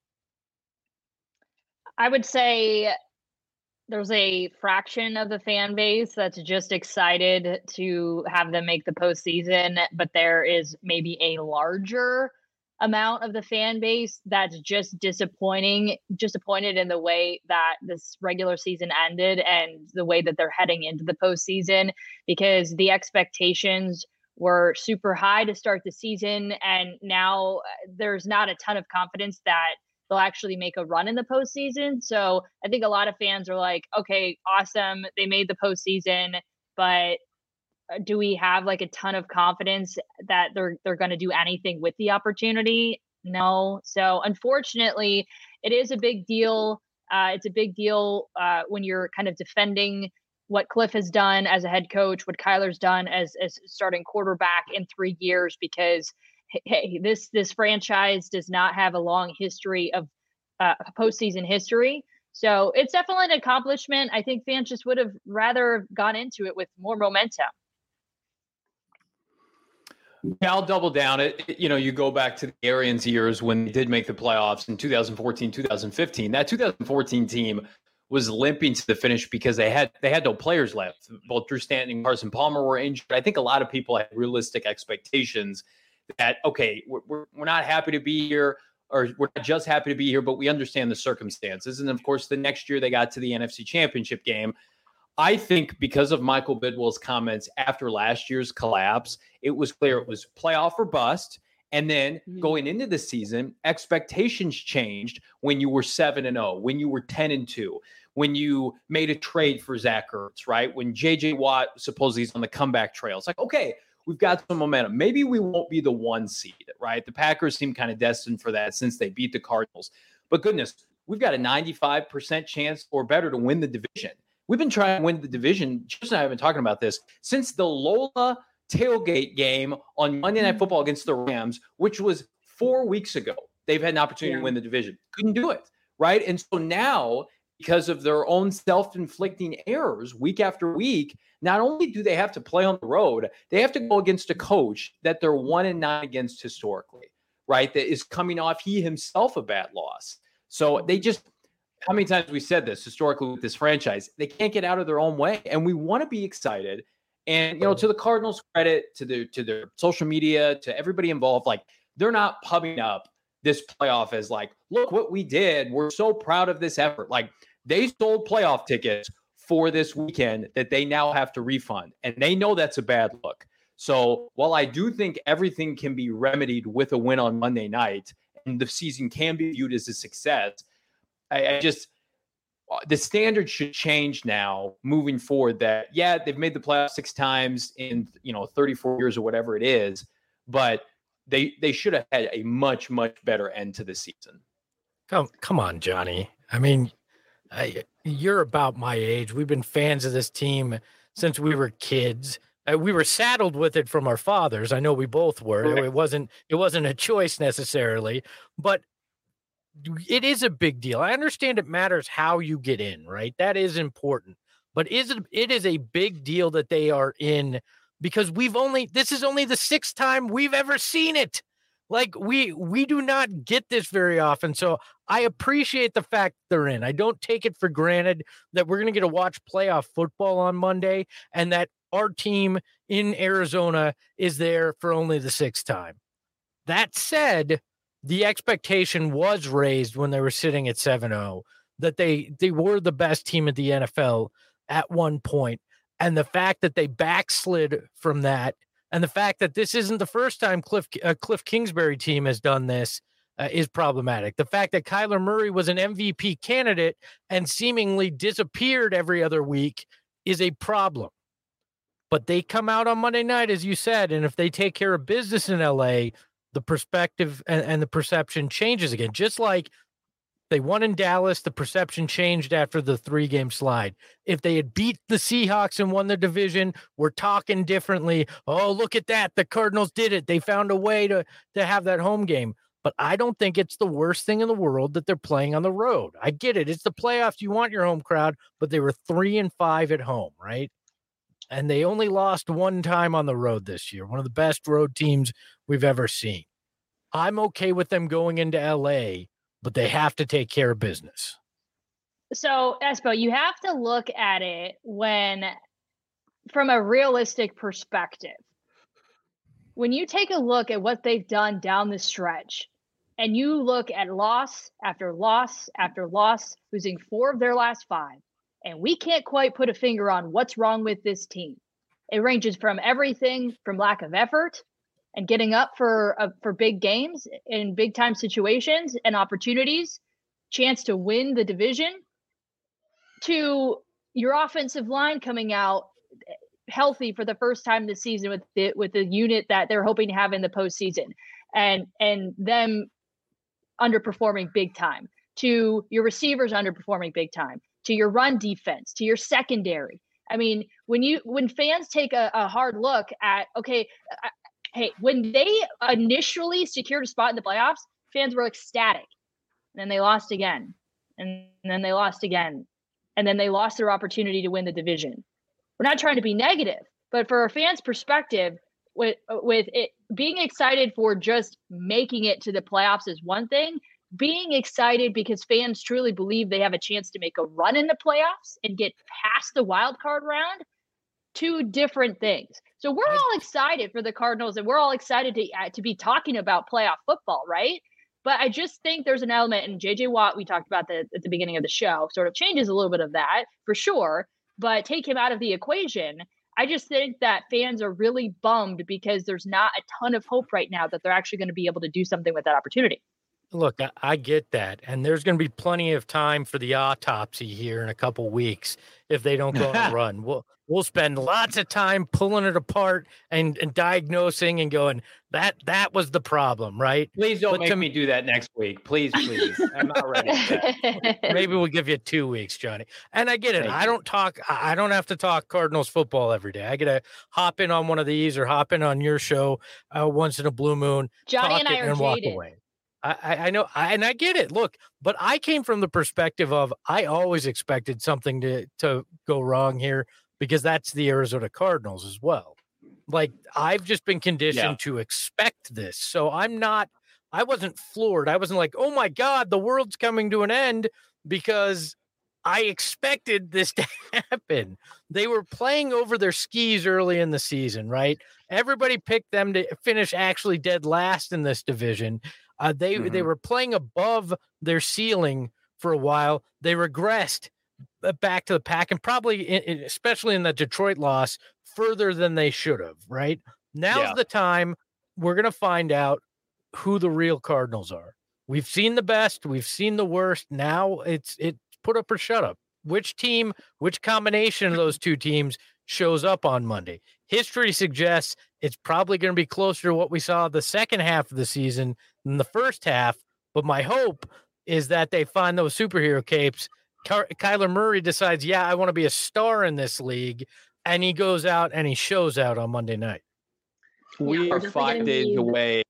I would say there's a fraction of the fan base that's just excited to have them make the postseason, but there is maybe a larger amount of the fan base that's just disappointing, disappointed in the way that this regular season ended and the way that they're heading into the postseason, because the expectations were super high to start the season, and now there's not a ton of confidence that they'll actually make a run in the postseason. So I think a lot of fans are like, okay, awesome, they made the postseason, but do we have like a ton of confidence that they're they're going to do anything with the opportunity? No. So unfortunately, it is a big deal. Uh, it's a big deal uh, when you're kind of defending what Cliff has done as a head coach, what Kyler's done as as starting quarterback in three years, because hey, this this franchise does not have a long history of uh, postseason history. So it's definitely an accomplishment. I think fans just would have rather gone into it with more momentum. Yeah, I'll double down it. You know, you go back to the Arians years when they did make the playoffs in two thousand fourteen, two thousand fifteen. That two thousand fourteen team was limping to the finish because they had they had no players left. Both Drew Stanton and Carson Palmer were injured. I think a lot of people had realistic expectations that, okay, we're, we're not happy to be here, or we're not just happy to be here, but we understand the circumstances. And of course, the next year they got to the N F C Championship game. I think because of Michael Bidwill's comments after last year's collapse, it was clear it was playoff or bust. And then mm-hmm. going into the season, expectations changed when you were seven and oh, when you were ten and two, when you made a trade for Zach Ertz, right? When J J Watt supposedly is on the comeback trail. It's like, okay, we've got some momentum. Maybe we won't be the one seed, right? The Packers seem kind of destined for that since they beat the Cardinals. But goodness, we've got a ninety-five percent chance or better to win the division. We've been trying to win the division. Just and I have been talking about this since the Lola tailgate game on Monday Night Football against the Rams, which was four weeks ago. They've had an opportunity yeah. to win the division. Couldn't do it, right? And so now, because of their own self-inflicting errors week after week, not only do they have to play on the road, they have to go against a coach that they're one and nine against historically, right? That is coming off he himself a bad loss. So they just, how many times we said this historically with this franchise, they can't get out of their own way. And we want to be excited. And, you know, to the Cardinals' credit, to the to their social media, to everybody involved, like, they're not pubbing up this playoff as like, look what we did. We're so proud of this effort. Like, they sold playoff tickets for this weekend that they now have to refund. And they know that's a bad look. So while I do think everything can be remedied with a win on Monday night and the season can be viewed as a success, I, I just, the standard should change now moving forward that, yeah, they've made the playoffs six times in, you know, thirty-four years or whatever it is, but they, they should have had a much, much better end to the season. Come, come on, Johnny. I mean, I, you're about my age. We've been fans of this team since we were kids. Uh, we were saddled with it from our fathers. I know we both were. Right. It wasn't, it wasn't a choice necessarily, but it is a big deal. I understand it matters how you get in, right? That is important. But is it, it is a big deal that they are in, because we've only, this is only the sixth time we've ever seen it. Like, we we do not get this very often. So I appreciate the fact they're in. I don't take it for granted that we're going to get to watch playoff football on Monday and that our team in Arizona is there for only the sixth time. That said, the expectation was raised when they were sitting at seven oh that they they were the best team at the N F L at one point. And the fact that they backslid from that, and the fact that this isn't the first time Cliff uh, Cliff Kingsbury team has done this uh, is problematic. The fact that Kyler Murray was an M V P candidate and seemingly disappeared every other week is a problem. But they come out on Monday night, as you said, and if they take care of business in L A, the perspective and, and the perception changes again. Just like they won in Dallas, the perception changed after the three-game slide. If they had beat the Seahawks and won the division, we're talking differently. Oh, look at that. The Cardinals did it. They found a way to, to have that home game. But I don't think it's the worst thing in the world that they're playing on the road. I get it. It's the playoffs. You want your home crowd, but they were three and five at home, right? and they only lost one time on the road this year, one of the best road teams we've ever seen. I'm okay with them going into L A, but they have to take care of business. So, Espo, you have to look at it when from a realistic perspective. When you take a look at what they've done down the stretch, and you look at loss after loss after loss, losing four of their last five, and we can't quite put a finger on what's wrong with this team. It ranges from everything from lack of effort and getting up for uh, for big games in big time situations and opportunities, chance to win the division, to your offensive line coming out healthy for the first time this season with the, with the unit that they're hoping to have in the postseason, and and them underperforming big time, to your receivers underperforming big time, to your run defense, to your secondary. I mean, when you when fans take a, a hard look at, okay, uh, hey, when they initially secured a spot in the playoffs, fans were ecstatic. And then they lost again. And then they lost again. And then they lost their opportunity to win the division. We're not trying to be negative, but for a fan's perspective, with with it being excited for just making it to the playoffs is one thing. Being excited because fans truly believe they have a chance to make a run in the playoffs and get past the wild card round, two different things. So we're all excited for the Cardinals, and we're all excited to uh, to be talking about playoff football, right? But I just think there's an element, and J J Watt, we talked about that at the beginning of the show, sort of changes a little bit of that for sure, but take him out of the equation. I just think that fans are really bummed because there's not a ton of hope right now that they're actually going to be able to do something with that opportunity. Look, I, I get that. And there's going to be plenty of time for the autopsy here in a couple weeks if they don't go on a run. We'll, we'll spend lots of time pulling it apart and, and diagnosing and going, that that was the problem, right? Please don't but make to, me do that next week. Please, please. I'm not ready for that. Maybe we'll give you two weeks, Johnny. And I get it. Thank I you. don't talk. I don't have to talk Cardinals football every day. I get to hop in on one of these or hop in on your show uh, once in a blue moon. Johnny and I are and walk jaded. away. I, I know, I, and I get it. Look, but I came from the perspective of I always expected something to to go wrong here because that's the Arizona Cardinals as well. Like I've just been conditioned Yeah. to expect this, so I'm not. I wasn't floored. I wasn't like, oh my God, the world's coming to an end because I expected this to happen. They were playing over their skis early in the season, right? Everybody picked them to finish actually dead last in this division. Uh, they Mhm. they were playing above their ceiling for a while. They regressed back to the pack, and probably, in, especially in the Detroit loss, further than they should have. Right now's Yeah. the time we're gonna find out who the real Cardinals are. We've seen the best, we've seen the worst. Now it's it put up or shut up. Which team, which combination of those two teams shows up on Monday? History suggests it's probably going to be closer to what we saw the second half of the season than the first half. But my hope is that they find those superhero capes. Ky- Kyler Murray decides, yeah, I want to be a star in this league. And he goes out and he shows out on Monday night. We Yeah, we're are definitely five gonna days need- away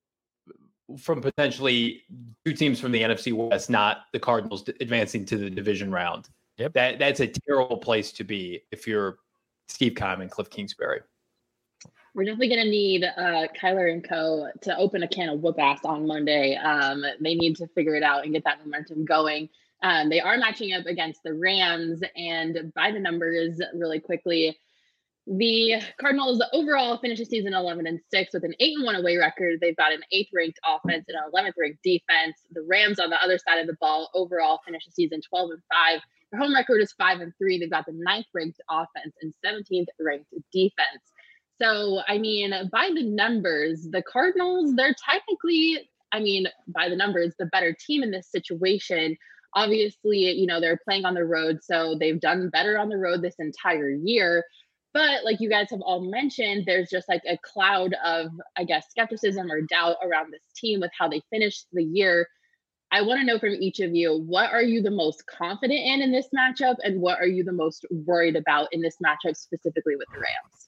from potentially two teams from the N F C West, not the Cardinals, advancing to the division round. Yep. That that's a terrible place to be if you're Steve Keim and Cliff Kingsbury. We're definitely going to need uh, Kyler and co to open a can of whoop ass on Monday. Um, they need to figure it out and get that momentum going. Um, they are matching up against the Rams, and by the numbers, really quickly, the Cardinals overall finish the season eleven and six with an eight and one away record. They've got an eighth ranked offense and an eleventh ranked defense. The Rams on the other side of the ball overall finish the season twelve and five. Their home record is five and three. They've got the ninth ranked offense and seventeenth ranked defense. So, I mean, by the numbers, the Cardinals, they're technically, I mean, by the numbers, the better team in this situation. Obviously, you know, they're playing on the road, so they've done better on the road this entire year. But like you guys have all mentioned, there's just like a cloud of, I guess, skepticism or doubt around this team with how they finished the year. I want to know from each of you, what are you the most confident in in this matchup, and what are you the most worried about in this matchup, specifically with the Rams?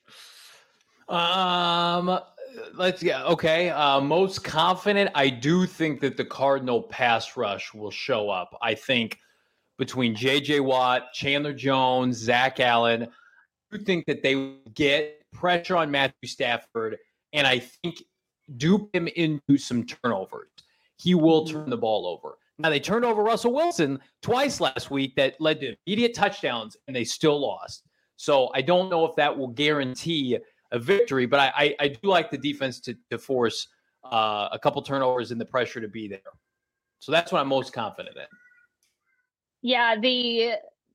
Um, let's yeah, okay. Uh, most confident, I do think that the Cardinal pass rush will show up. I think between J J Watt, Chandler Jones, Zach Allen, do think that they would get pressure on Matthew Stafford, and I think dupe him into some turnovers. He will turn the ball over. Now, they turned over Russell Wilson twice last week that led to immediate touchdowns, and they still lost. So I don't know if that will guarantee a victory, but I, I, I do like the defense to, to force uh, a couple turnovers and the pressure to be there. So that's what I'm most confident in. Yeah, the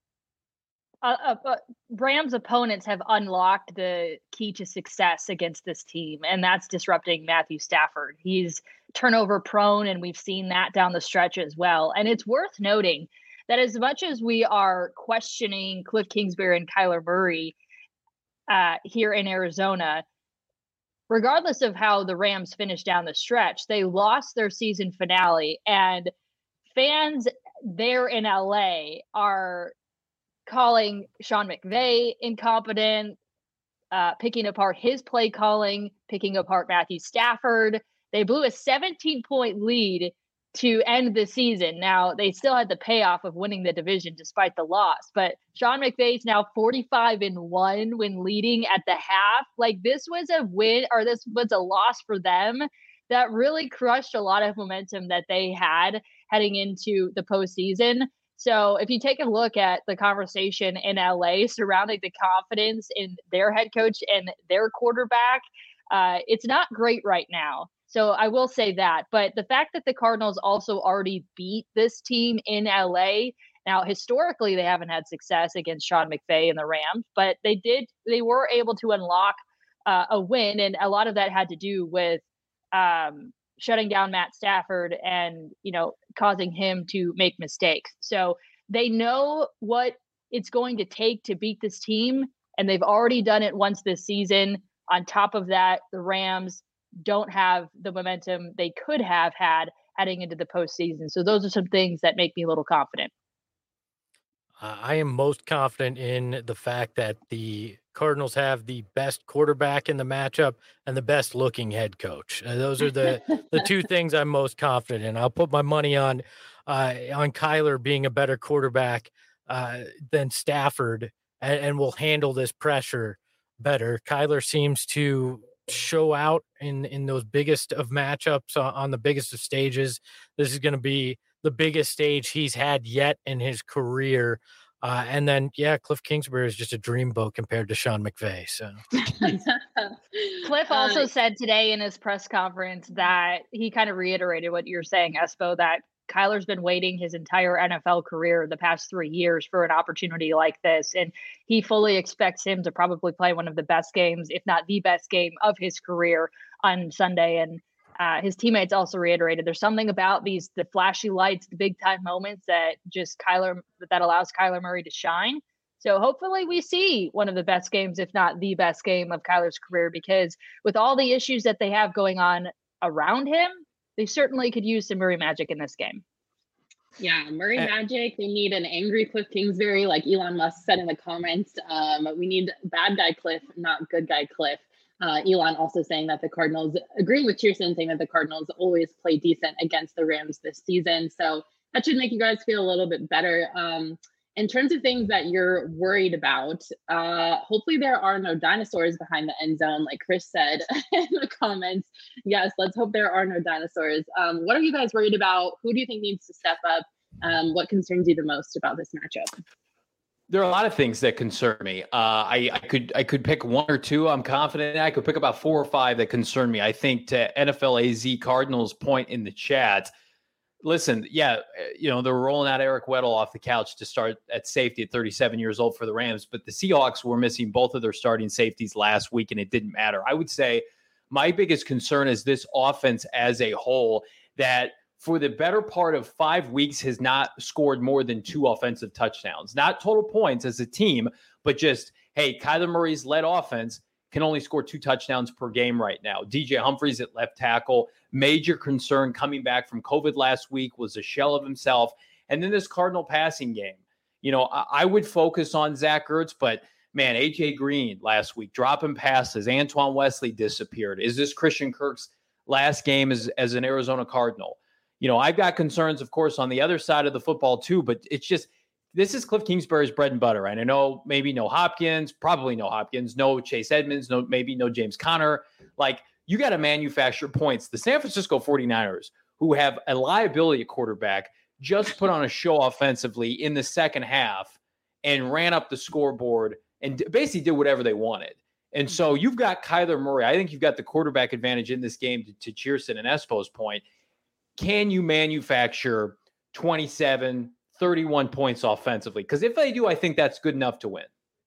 uh, uh, uh, Rams opponents have unlocked the key to success against this team, and that's disrupting Matthew Stafford. He's turnover prone, and we've seen that down the stretch as well. And it's worth noting that as much as we are questioning Cliff Kingsbury and Kyler Murray uh, here in Arizona, regardless of how the Rams finished down the stretch, they lost their season finale, and fans there in L A are calling Sean McVay incompetent, uh, picking apart his play calling, picking apart Matthew Stafford. They blew a seventeen-point lead to end the season. Now, they still had the payoff of winning the division despite the loss, but Sean McVay's now forty-five and one when leading at the half. Like, this was a win, or this was a loss for them that really crushed a lot of momentum that they had heading into the postseason. So if you take a look at the conversation in L A surrounding the confidence in their head coach and their quarterback, uh, it's not great right now. So I will say that. But the fact that the Cardinals also already beat this team in L A, now historically they haven't had success against Sean McVay and the Rams, but they did, they were able to unlock uh, a win. And a lot of that had to do with um, shutting down Matt Stafford and, you know, causing him to make mistakes. So they know what it's going to take to beat this team, and they've already done it once this season. On top of that, the Rams don't have the momentum they could have had heading into the postseason. So those are some things that make me a little confident. Uh, I am most confident in the fact that the Cardinals have the best quarterback in the matchup and the best looking head coach. Uh, those are the, the two things I'm most confident in. I'll put my money on, uh, on Kyler being a better quarterback uh, than Stafford, and, and will handle this pressure better. Kyler seems to show out in, in those biggest of matchups on, on the biggest of stages. This is going to be the biggest stage he's had yet in his career. Uh, and then, yeah, Cliff Kingsbury is just a dreamboat compared to Sean McVay. So Cliff also uh, said today in his press conference that he kind of reiterated what you're saying, Espo, that Kyler's been waiting his entire N F L career, the past three years, for an opportunity like this. And he fully expects him to probably play one of the best games, if not the best game of his career on Sunday. And Uh, his teammates also reiterated there's something about these, the flashy lights, the big time moments that just Kyler, that allows Kyler Murray to shine. So hopefully we see one of the best games, if not the best game of Kyler's career, because with all the issues that they have going on around him, they certainly could use some Murray magic in this game. Yeah, Murray uh, magic. They need an angry Cliff Kingsbury, like Elon Musk said in the comments. Um, we need bad guy Cliff, not good guy Cliff. Uh, Elon also saying that the Cardinals, agreeing with Cheerson, saying that the Cardinals always play decent against the Rams this season. So that should make you guys feel a little bit better. Um, in terms of things that you're worried about, uh, hopefully there are no dinosaurs behind the end zone, like Chris said in the comments. Yes, let's hope there are no dinosaurs. Um, what are you guys worried about? Who do you think needs to step up? Um, what concerns you the most about this matchup? There are a lot of things that concern me. Uh, I, I could I could pick one or two. I'm confident in. I could pick about four or five that concern me. I think to N F L A Z Cardinals point in the chat, listen, yeah, you know, they're rolling out Eric Weddle off the couch to start at safety at thirty-seven years old for the Rams, but the Seahawks were missing both of their starting safeties last week, and it didn't matter. I would say my biggest concern is this offense as a whole, that for the better part of five weeks has not scored more than two offensive touchdowns. Not total points as a team, but just, hey, Kyler Murray's led offense can only score two touchdowns per game right now. D J Humphries at left tackle, major concern coming back from COVID last week, was a shell of himself. And then this Cardinal passing game. You know, I, I would focus on Zach Ertz, but man, A J Green last week, dropping passes. Antoine Wesley disappeared. Is this Christian Kirk's last game as, as an Arizona Cardinal? You know, I've got concerns, of course, on the other side of the football too, but it's just this is Cliff Kingsbury's bread and butter. And I know maybe no Hopkins, probably no Hopkins, no Chase Edmonds, no maybe no James Conner. Like, you got to manufacture points. The San Francisco forty-niners, who have a liability at quarterback, just put on a show offensively in the second half and ran up the scoreboard and basically did whatever they wanted. And so you've got Kyler Murray. I think you've got the quarterback advantage in this game, to, to Cheerson and Espo's point. Can you manufacture twenty-seven, thirty-one points offensively? Because if they do, I think that's good enough to win.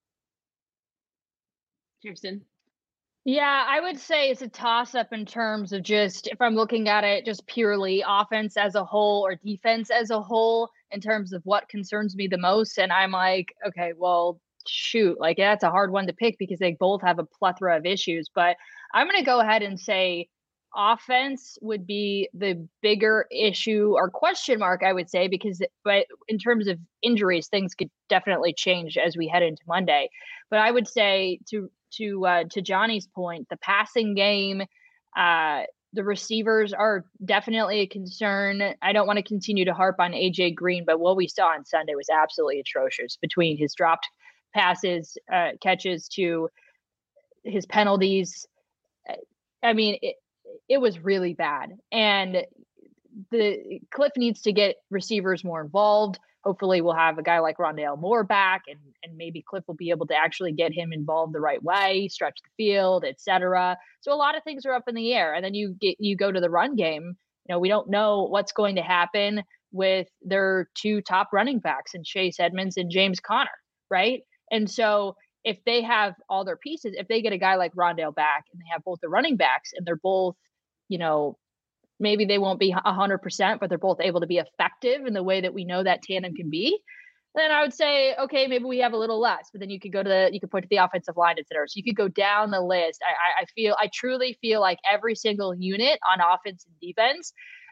Cheerson. Yeah, I would say it's a toss-up in terms of just, if I'm looking at it just purely offense as a whole or defense as a whole, in terms of what concerns me the most. And I'm like, okay, well, shoot, like that's a hard one to pick because they both have a plethora of issues. But I'm going to go ahead and say offense would be the bigger issue or question mark, I would say, because but in terms of injuries, things could definitely change as we head into Monday. But I would say to to uh, to Johnny's point, the passing game, uh, the receivers are definitely a concern. I don't want to continue to harp on A J Green, but what we saw on Sunday was absolutely atrocious, between his dropped passes, uh, catches to his penalties. I mean, it, it was really bad. And the Cliff needs to get receivers more involved. Hopefully we'll have a guy like Rondale Moore back, and, and maybe Cliff will be able to actually get him involved the right way, stretch the field, et cetera. So a lot of things are up in the air. And then you get, you go to the run game. You know, we don't know what's going to happen with their two top running backs in Chase Edmonds and James Conner, right? And so if they have all their pieces, if they get a guy like Rondale back and they have both the running backs and they're both, you know, maybe they won't be one hundred percent, but they're both able to be effective in the way that we know that tandem can be, then I would say, okay, maybe we have a little less. But then you could go to the, you could point to the offensive line, et cetera. So you could go down the list. I, I feel, I truly feel like every single unit on offense and defense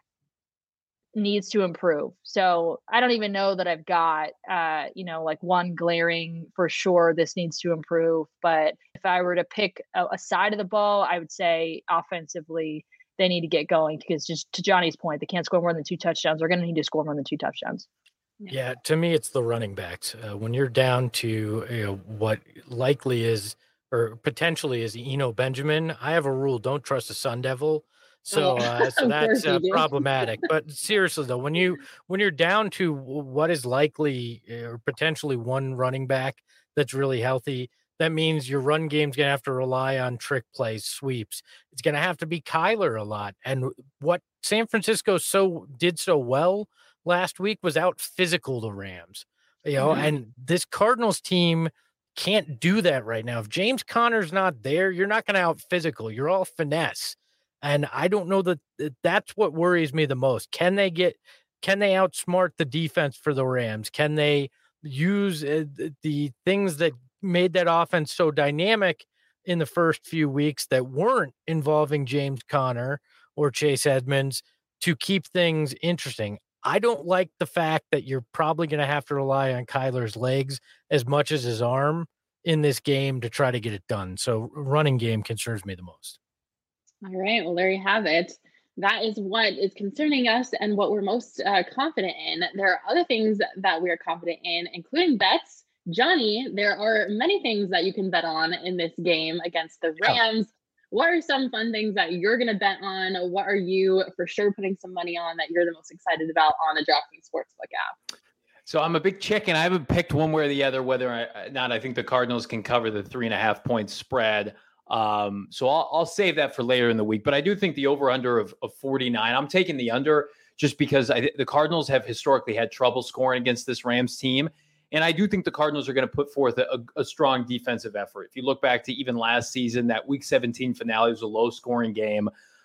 needs to improve. So I don't even know that I've got, uh, you know, like one glaring for sure, this needs to improve. But if I were to pick a, a side of the ball, I would say offensively, they need to get going, because just to Johnny's point, they can't score more than two touchdowns. They're going to need to score more than two touchdowns. Yeah, yeah, to me, it's the running backs. Uh, when you're down to, you know, what likely is or potentially is Eno Benjamin, I have a rule: don't trust a Sun Devil. So, uh, so that's uh, problematic. But seriously, though, when you when you're down to what is likely or potentially one running back that's really healthy, that means your run game's going to have to rely on trick plays, sweeps. It's going to have to be Kyler a lot. And what San Francisco so did so well last week was out physical the Rams. You know, mm-hmm. And this Cardinals team can't do that right now. If James Conner's not there, you're not going to out physical. You're all finesse. And I don't know that that's what worries me the most. Can they get, can they outsmart the defense for the Rams? Can they use uh, the things that made that offense so dynamic in the first few weeks that weren't involving James Conner or Chase Edmonds to keep things interesting? I don't like the fact that you're probably going to have to rely on Kyler's legs as much as his arm in this game to try to get it done. So running game concerns me the most. All right. Well, there you have it. That is what is concerning us and what we're most uh, confident in. There are other things that we are confident in, including bets. Johnny, there are many things that you can bet on in this game against the Rams. Oh. What are some fun things that you're going to bet on? What are you for sure putting some money on that you're the most excited about on the DraftKings Sportsbook app? So I'm a big chicken. I haven't picked one way or the other whether or not I think the Cardinals can cover the three and a half point spread. Um, so I'll, I'll save that for later in the week. But I do think the over-under of, of forty-nine, I'm taking the under just because I, the Cardinals have historically had trouble scoring against this Rams team. And I do think the Cardinals are going to put forth a, a strong defensive effort. If you look back to even last season, that Week seventeen finale was a low-scoring game.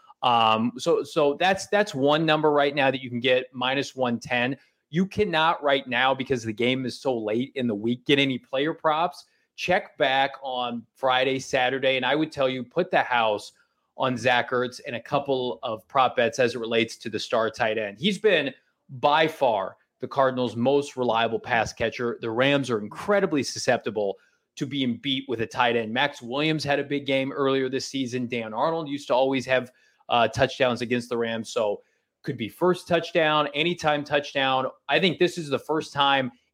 Um, so so that's that's one number right now that you can get, minus one ten. You cannot right now, because the game is so late in the week, get any player props. Check back on Friday, Saturday, and I would tell you, put the house on Zach Ertz and a couple of prop bets as it relates to the star tight end. He's been by far the Cardinals' most reliable pass catcher. The Rams are incredibly susceptible to being beat with a tight end. Max Williams had a big game earlier this season. Dan Arnold used to always have uh, touchdowns against the Rams. So could be first touchdown, anytime touchdown. I think this is the first time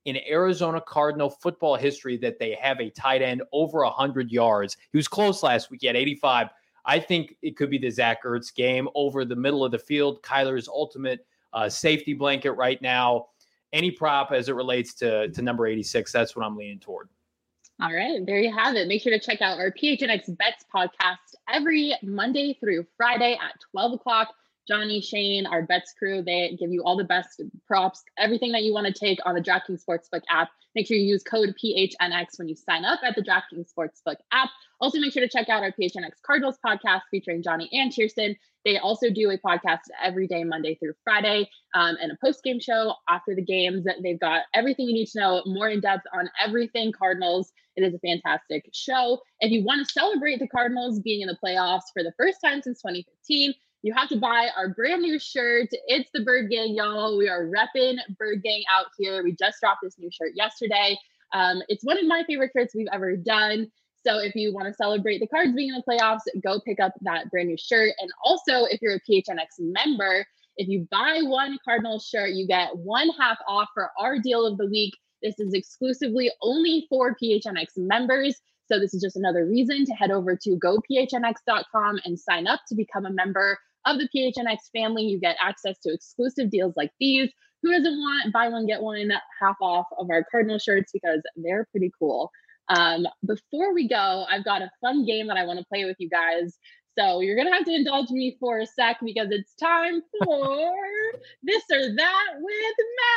in Arizona Cardinal football history that they have a tight end over one hundred yards. He was close last week. He had eighty-five. I think it could be the Zach Ertz game over the middle of the field. Kyler's ultimate uh, safety blanket right now. Any prop as it relates to, to number eighty-six, that's what I'm leaning toward. All right, there you have it. Make sure to check out our P H N X Bets podcast every Monday through Friday at twelve o'clock. Johnny, Shane, our bets crew, they give you all the best props, everything that you want to take on the DraftKings Sportsbook app. Make sure you use code P H N X when you sign up at the DraftKings Sportsbook app. Also, make sure to check out our P H N X Cardinals podcast featuring Johnny and Kirsten. They also do a podcast every day, Monday through Friday, um, and a post-game show after the games. They've got everything you need to know, more in depth on everything Cardinals. It is a fantastic show. If you want to celebrate the Cardinals being in the playoffs for the first time since twenty fifteen, you have to buy our brand new shirt. It's the Bird Gang, y'all. We are repping Bird Gang out here. We just dropped this new shirt yesterday. Um, it's one of my favorite shirts we've ever done. So if you want to celebrate the Cards being in the playoffs, go pick up that brand new shirt. And also, if you're a P H N X member, if you buy one Cardinals shirt, you get one half off for our deal of the week. This is exclusively only for P H N X members. So this is just another reason to head over to go P H N X dot com and sign up to become a member of the P H N X family. You get access to exclusive deals like these. Who doesn't want buy one, get one half off of our Cardinal shirts, because they're pretty cool. Um, before we go, I've got a fun game that I want to play with you guys. So you're going to have to indulge me for a sec because it's time for This or That with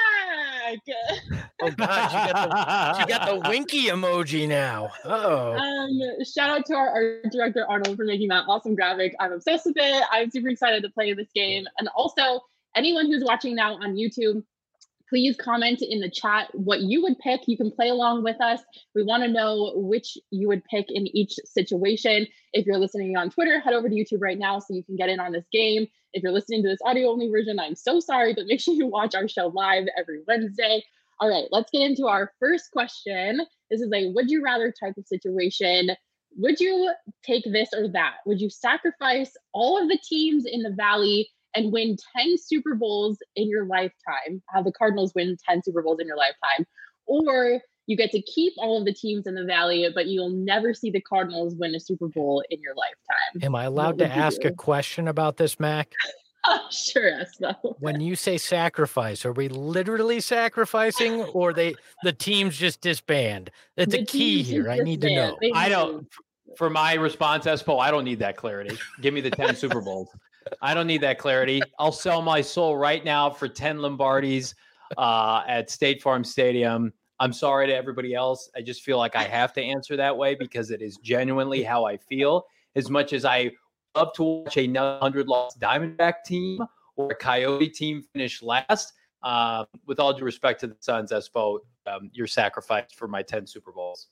Mac. Oh, God, you got the, you got the winky emoji now. Uh-oh. Um, shout out to our art director, Arnold, for making that awesome graphic. I'm obsessed with it. I'm super excited to play this game. And also, anyone who's watching now on YouTube, please comment in the chat what you would pick. You can play along with us. We want to know which you would pick in each situation. If you're listening on Twitter, head over to YouTube right now so you can get in on this game. If you're listening to this audio only version, I'm so sorry, but make sure you watch our show live every Wednesday. All right, let's get into our first question. This is a would you rather type of situation. Would you take this or that? Would you sacrifice all of the teams in the Valley and win ten Super Bowls in your lifetime, have the Cardinals win ten Super Bowls in your lifetime? Or you get to keep all of the teams in the Valley, but you'll never see the Cardinals win a Super Bowl in your lifetime. Am I allowed to ask a question about this, Mac? Oh, sure, Espo. When you say sacrifice, are we literally sacrificing, or they the teams just disband? That's The a key teams here. just I need to disband. know. They I move. don't, for my response, Espo, I don't need that clarity. Give me the ten Super Bowls. I don't need that clarity. I'll sell my soul right now for ten Lombardis uh, at State Farm Stadium. I'm sorry to everybody else. I just feel like I have to answer that way because it is genuinely how I feel. As much as I love to watch a one hundred loss Diamondback team or a Coyote team finish last, uh, with all due respect to the Suns, Espo, um, you're sacrificed for my ten Super Bowls.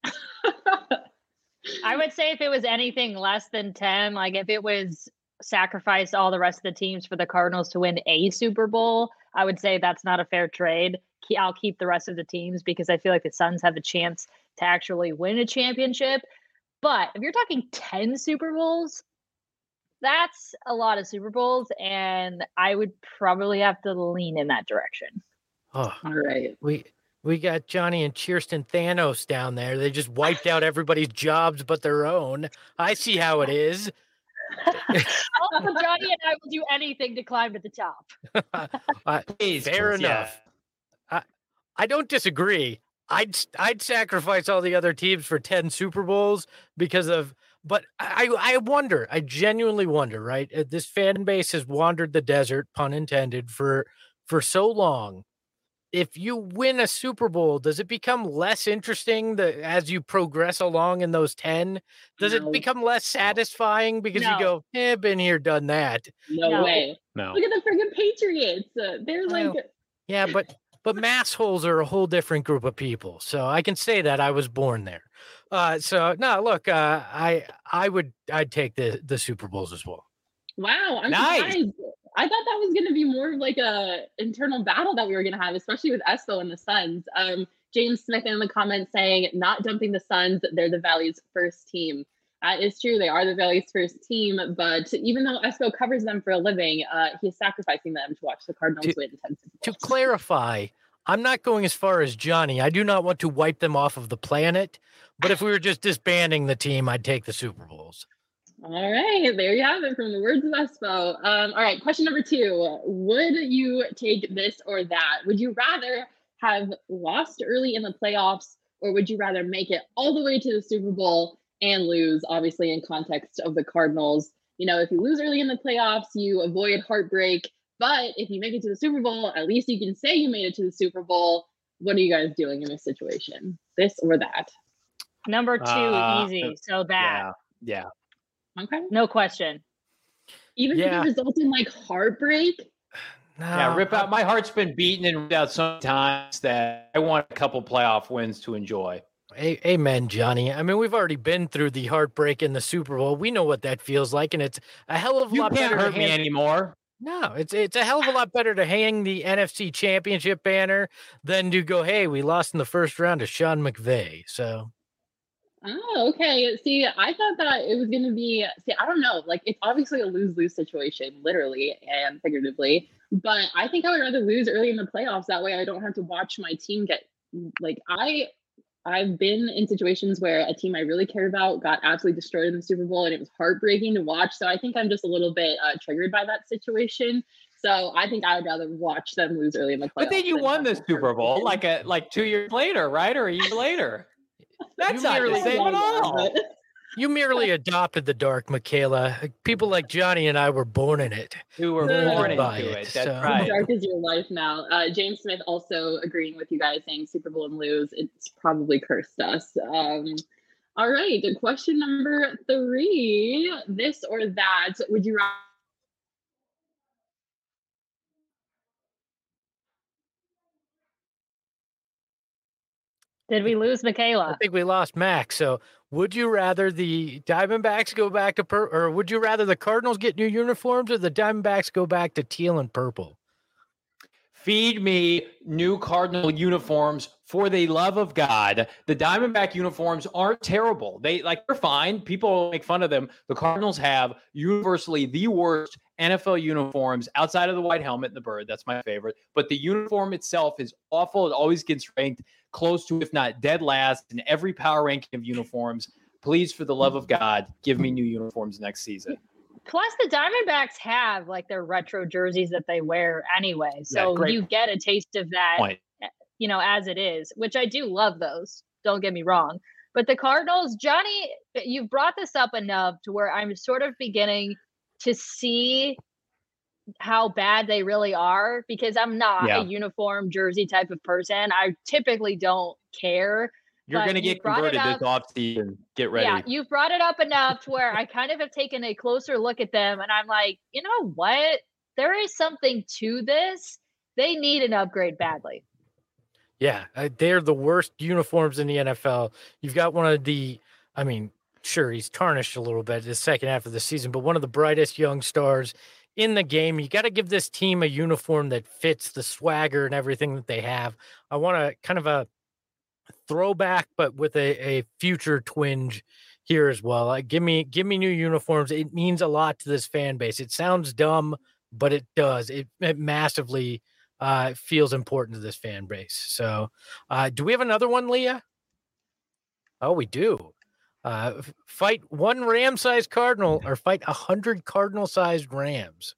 I would say if it was anything less than ten, like if it was sacrifice all the rest of the teams for the Cardinals to win a Super Bowl, I would say that's not a fair trade. I'll keep the rest of the teams because I feel like the Suns have a chance to actually win a championship. But if you're talking ten Super Bowls, that's a lot of Super Bowls, and I would probably have to lean in that direction. Oh, All right. we we got Johnny and Kirsten Thanos down there. They just wiped out everybody's jobs but their own. I see how it is. Also, Johnny and I will do anything to climb to the top. uh, Please, fair please, enough. I, I don't disagree. I'd I'd sacrifice all the other teams for ten Super Bowls because of, but I I wonder, I genuinely wonder, right? Uh, This fan base has wandered the desert, pun intended, for for so long. If you win a Super Bowl, does it become less interesting the, as you progress along in those ten? Does No. it become less satisfying because you No. go, eh, been here, done that? No, No. way. No. Look at the freaking Patriots. Uh, they're like, Well, Yeah, but but mass holes are a whole different group of people. So I can say that I was born there. Uh, so no, look, uh, I I would I'd take the the Super Bowls as well. wow, I'm Nice. surprised. I thought that was going to be more of like a internal battle that we were going to have, especially with Espo and the Suns. Um, James Smith in the comments saying, not dumping the Suns, they're the Valley's first team. That is true. They are the Valley's first team, but even though Espo covers them for a living, uh, he's sacrificing them to watch the Cardinals To- win ten Super To Bowls. clarify, I'm not going as far as Johnny. I do not want to wipe them off of the planet. But if we were just disbanding the team, I'd take the Super Bowls. All right, there you have it from the words of Espo. Um, all right, question number two. Would you take this or that? Would you rather have lost early in the playoffs, or would you rather make it all the way to the Super Bowl and lose, obviously in context of the Cardinals? You know, if you lose early in the playoffs, you avoid heartbreak. But if you make it to the Super Bowl, at least you can say you made it to the Super Bowl. What are you guys doing in this situation? This or that? Number two, Uh, easy. So that. Yeah. Yeah. Okay. No question. Even Yeah. if it results in like heartbreak? No, Yeah, rip I- out. My heart's been beaten and ripped out so many times that I want a couple playoff wins to enjoy. A- Amen, Johnny. I mean, we've already been through the heartbreak in the Super Bowl. We know what that feels like, and it's a hell of a You lot can't better hurt to me hang- anymore. No, it's it's a hell of a lot better to hang the N F C Championship banner than to go, hey, we lost in the first round to Sean McVay. So Oh, okay. See, I thought that it was going to be, see, I don't know. Like, it's obviously a lose lose situation, literally and figuratively. But I think I would rather lose early in the playoffs. That way I don't have to watch my team get, like, I. I've been in situations where a team I really cared about got absolutely destroyed in the Super Bowl, and it was heartbreaking to watch. So I think I'm just a little bit uh, triggered by that situation. So I think I would rather watch them lose early in the playoffs. But then you than won have the them Super Bowl heartbreaking. like a like two years later, right? Or a year later. That's You not the merely- same at Yeah, all. but- you merely adopted the dark, Michaela. People like Johnny and I were born in it. You were Molded born into by it. it, That's so- right. Dark is your life now. Uh, James Smith also agreeing with you guys, saying Super Bowl and lose. It's probably cursed us. Um, all right, question number three: this or that? Would you rather? Did we lose I Michaela? think we lost Max. So would you rather the Diamondbacks go back to pur- or would you rather the Cardinals get new uniforms or the Diamondbacks go back to teal and purple? Feed me new Cardinal uniforms for the love of God. The Diamondback uniforms aren't terrible. They like they're fine. People make fun of them. The Cardinals have universally the worst N F L uniforms outside of the white helmet and the bird. That's my favorite. But the uniform itself is awful. It always gets ranked close to, if not dead last, in every power ranking of uniforms. Please, for the love of God, give me new uniforms next season. Plus, the Diamondbacks have like their retro jerseys that they wear anyway. So great you get a taste of that, Point. you know, as it is, which I do love those. Don't get me wrong. But the Cardinals, Johnny, you've brought this up enough to where I'm sort of beginning to see how bad they really are, because I'm not Yeah. a uniform jersey type of person. I typically don't care. You're But going to you get brought it converted this up. offseason. Get ready. Yeah, you've brought it up enough to where I kind of have taken a closer look at them, and I'm like, you know what? There is something to this. They need an upgrade badly. Yeah, uh, they're the worst uniforms in the N F L. You've got one of the, I mean, sure, he's tarnished a little bit the second half of the season, but one of the brightest young stars in the game. You got to give this team a uniform that fits the swagger and everything that they have. I want a kind of a throwback, but with a, a future twinge here as well. Like, give me, give me new uniforms. It means a lot to this fan base. It sounds dumb, but it does. It, it massively uh, feels important to this fan base. So, uh, do we have another one, Leah? Oh, we do. Uh, f- fight one ram-sized cardinal or fight a hundred cardinal-sized rams.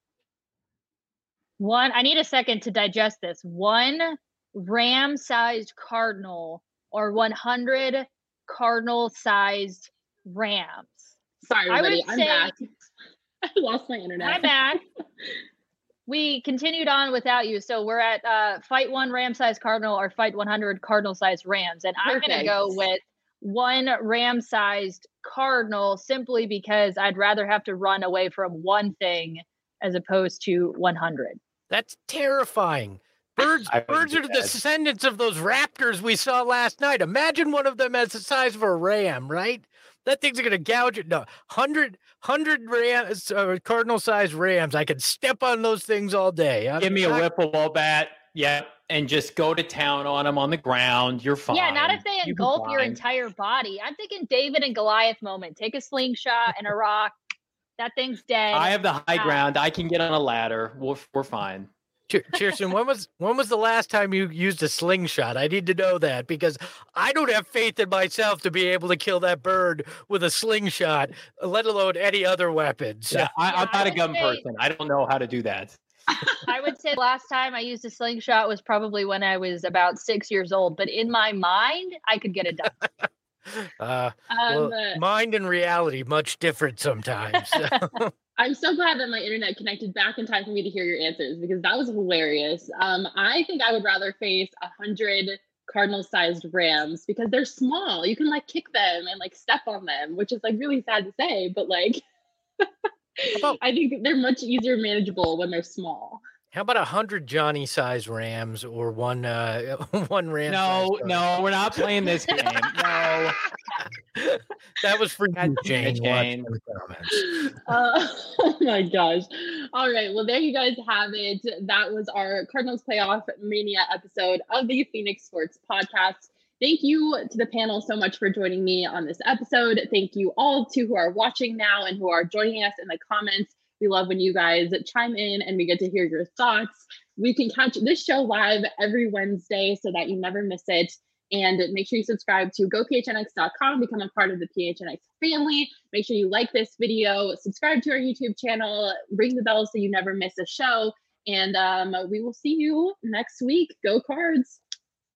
One, I need a second to digest this. One ram-sized cardinal or one hundred cardinal-sized rams. Sorry, I everybody. would I'm say- back. I lost my internet. I'm back. We continued on without you, so we're at uh, fight one ram-sized cardinal or fight one hundred cardinal-sized rams, and I'm going to Perfect. go with one ram-sized cardinal simply because I'd rather have to run away from one thing as opposed to one hundred. That's terrifying. Birds, I wouldn't birds do are the that. descendants of those raptors we saw last night. Imagine one of them as the size of a ram, right? That thing's going to gouge it. No, hundred, hundred rams, uh, cardinal-sized rams. I could step on those things all day. I'm Give me a not- whipple bat. Yeah. And just go to town on them on the ground. You're fine. Yeah, not if they You'll be engulf your fine. entire body. I'm thinking David and Goliath moment. Take a slingshot and a rock. That thing's dead. I have the high Uh, ground. I can get on a ladder. We're, we're fine. Kirsten, when was when was the last time you used a slingshot? I need to know that because I don't have faith in myself to be able to kill that bird with a slingshot, let alone any other weapons. Yeah, I, Yeah, I'm not I a would gun say- person. I don't know how to do that. I would say the last time I used a slingshot was probably when I was about six years old. But in my mind, I could get it done. Uh, Um, well, mind and reality much different sometimes. I'm so glad that my internet connected back in time for me to hear your answers because that was hilarious. Um, I think I would rather face a hundred Cardinal-sized rams because they're small. You can like kick them and like step on them, which is like really sad to say, but like about- I think they're much easier manageable when they're small. How about a hundred Johnny-sized rams or one uh, one ram? No, no, we're not playing this game. No. That was for God you, damn it, Jane. Watch Jane. in the comments. Uh, oh my gosh. All right. Well, there you guys have it. That was our Cardinals Playoff Mania episode of the Phoenix Sports Podcast. Thank you to the panel so much for joining me on this episode. Thank you all to who are watching now and who are joining us in the comments. We love when you guys chime in and we get to hear your thoughts. We can catch this show live every Wednesday so that you never miss it. And make sure you subscribe to go P H N X dot com, become a part of the P H N X family. Make sure you like this video, subscribe to our YouTube channel, ring the bell so you never miss a show. And um, we will see you next week. Go Cards.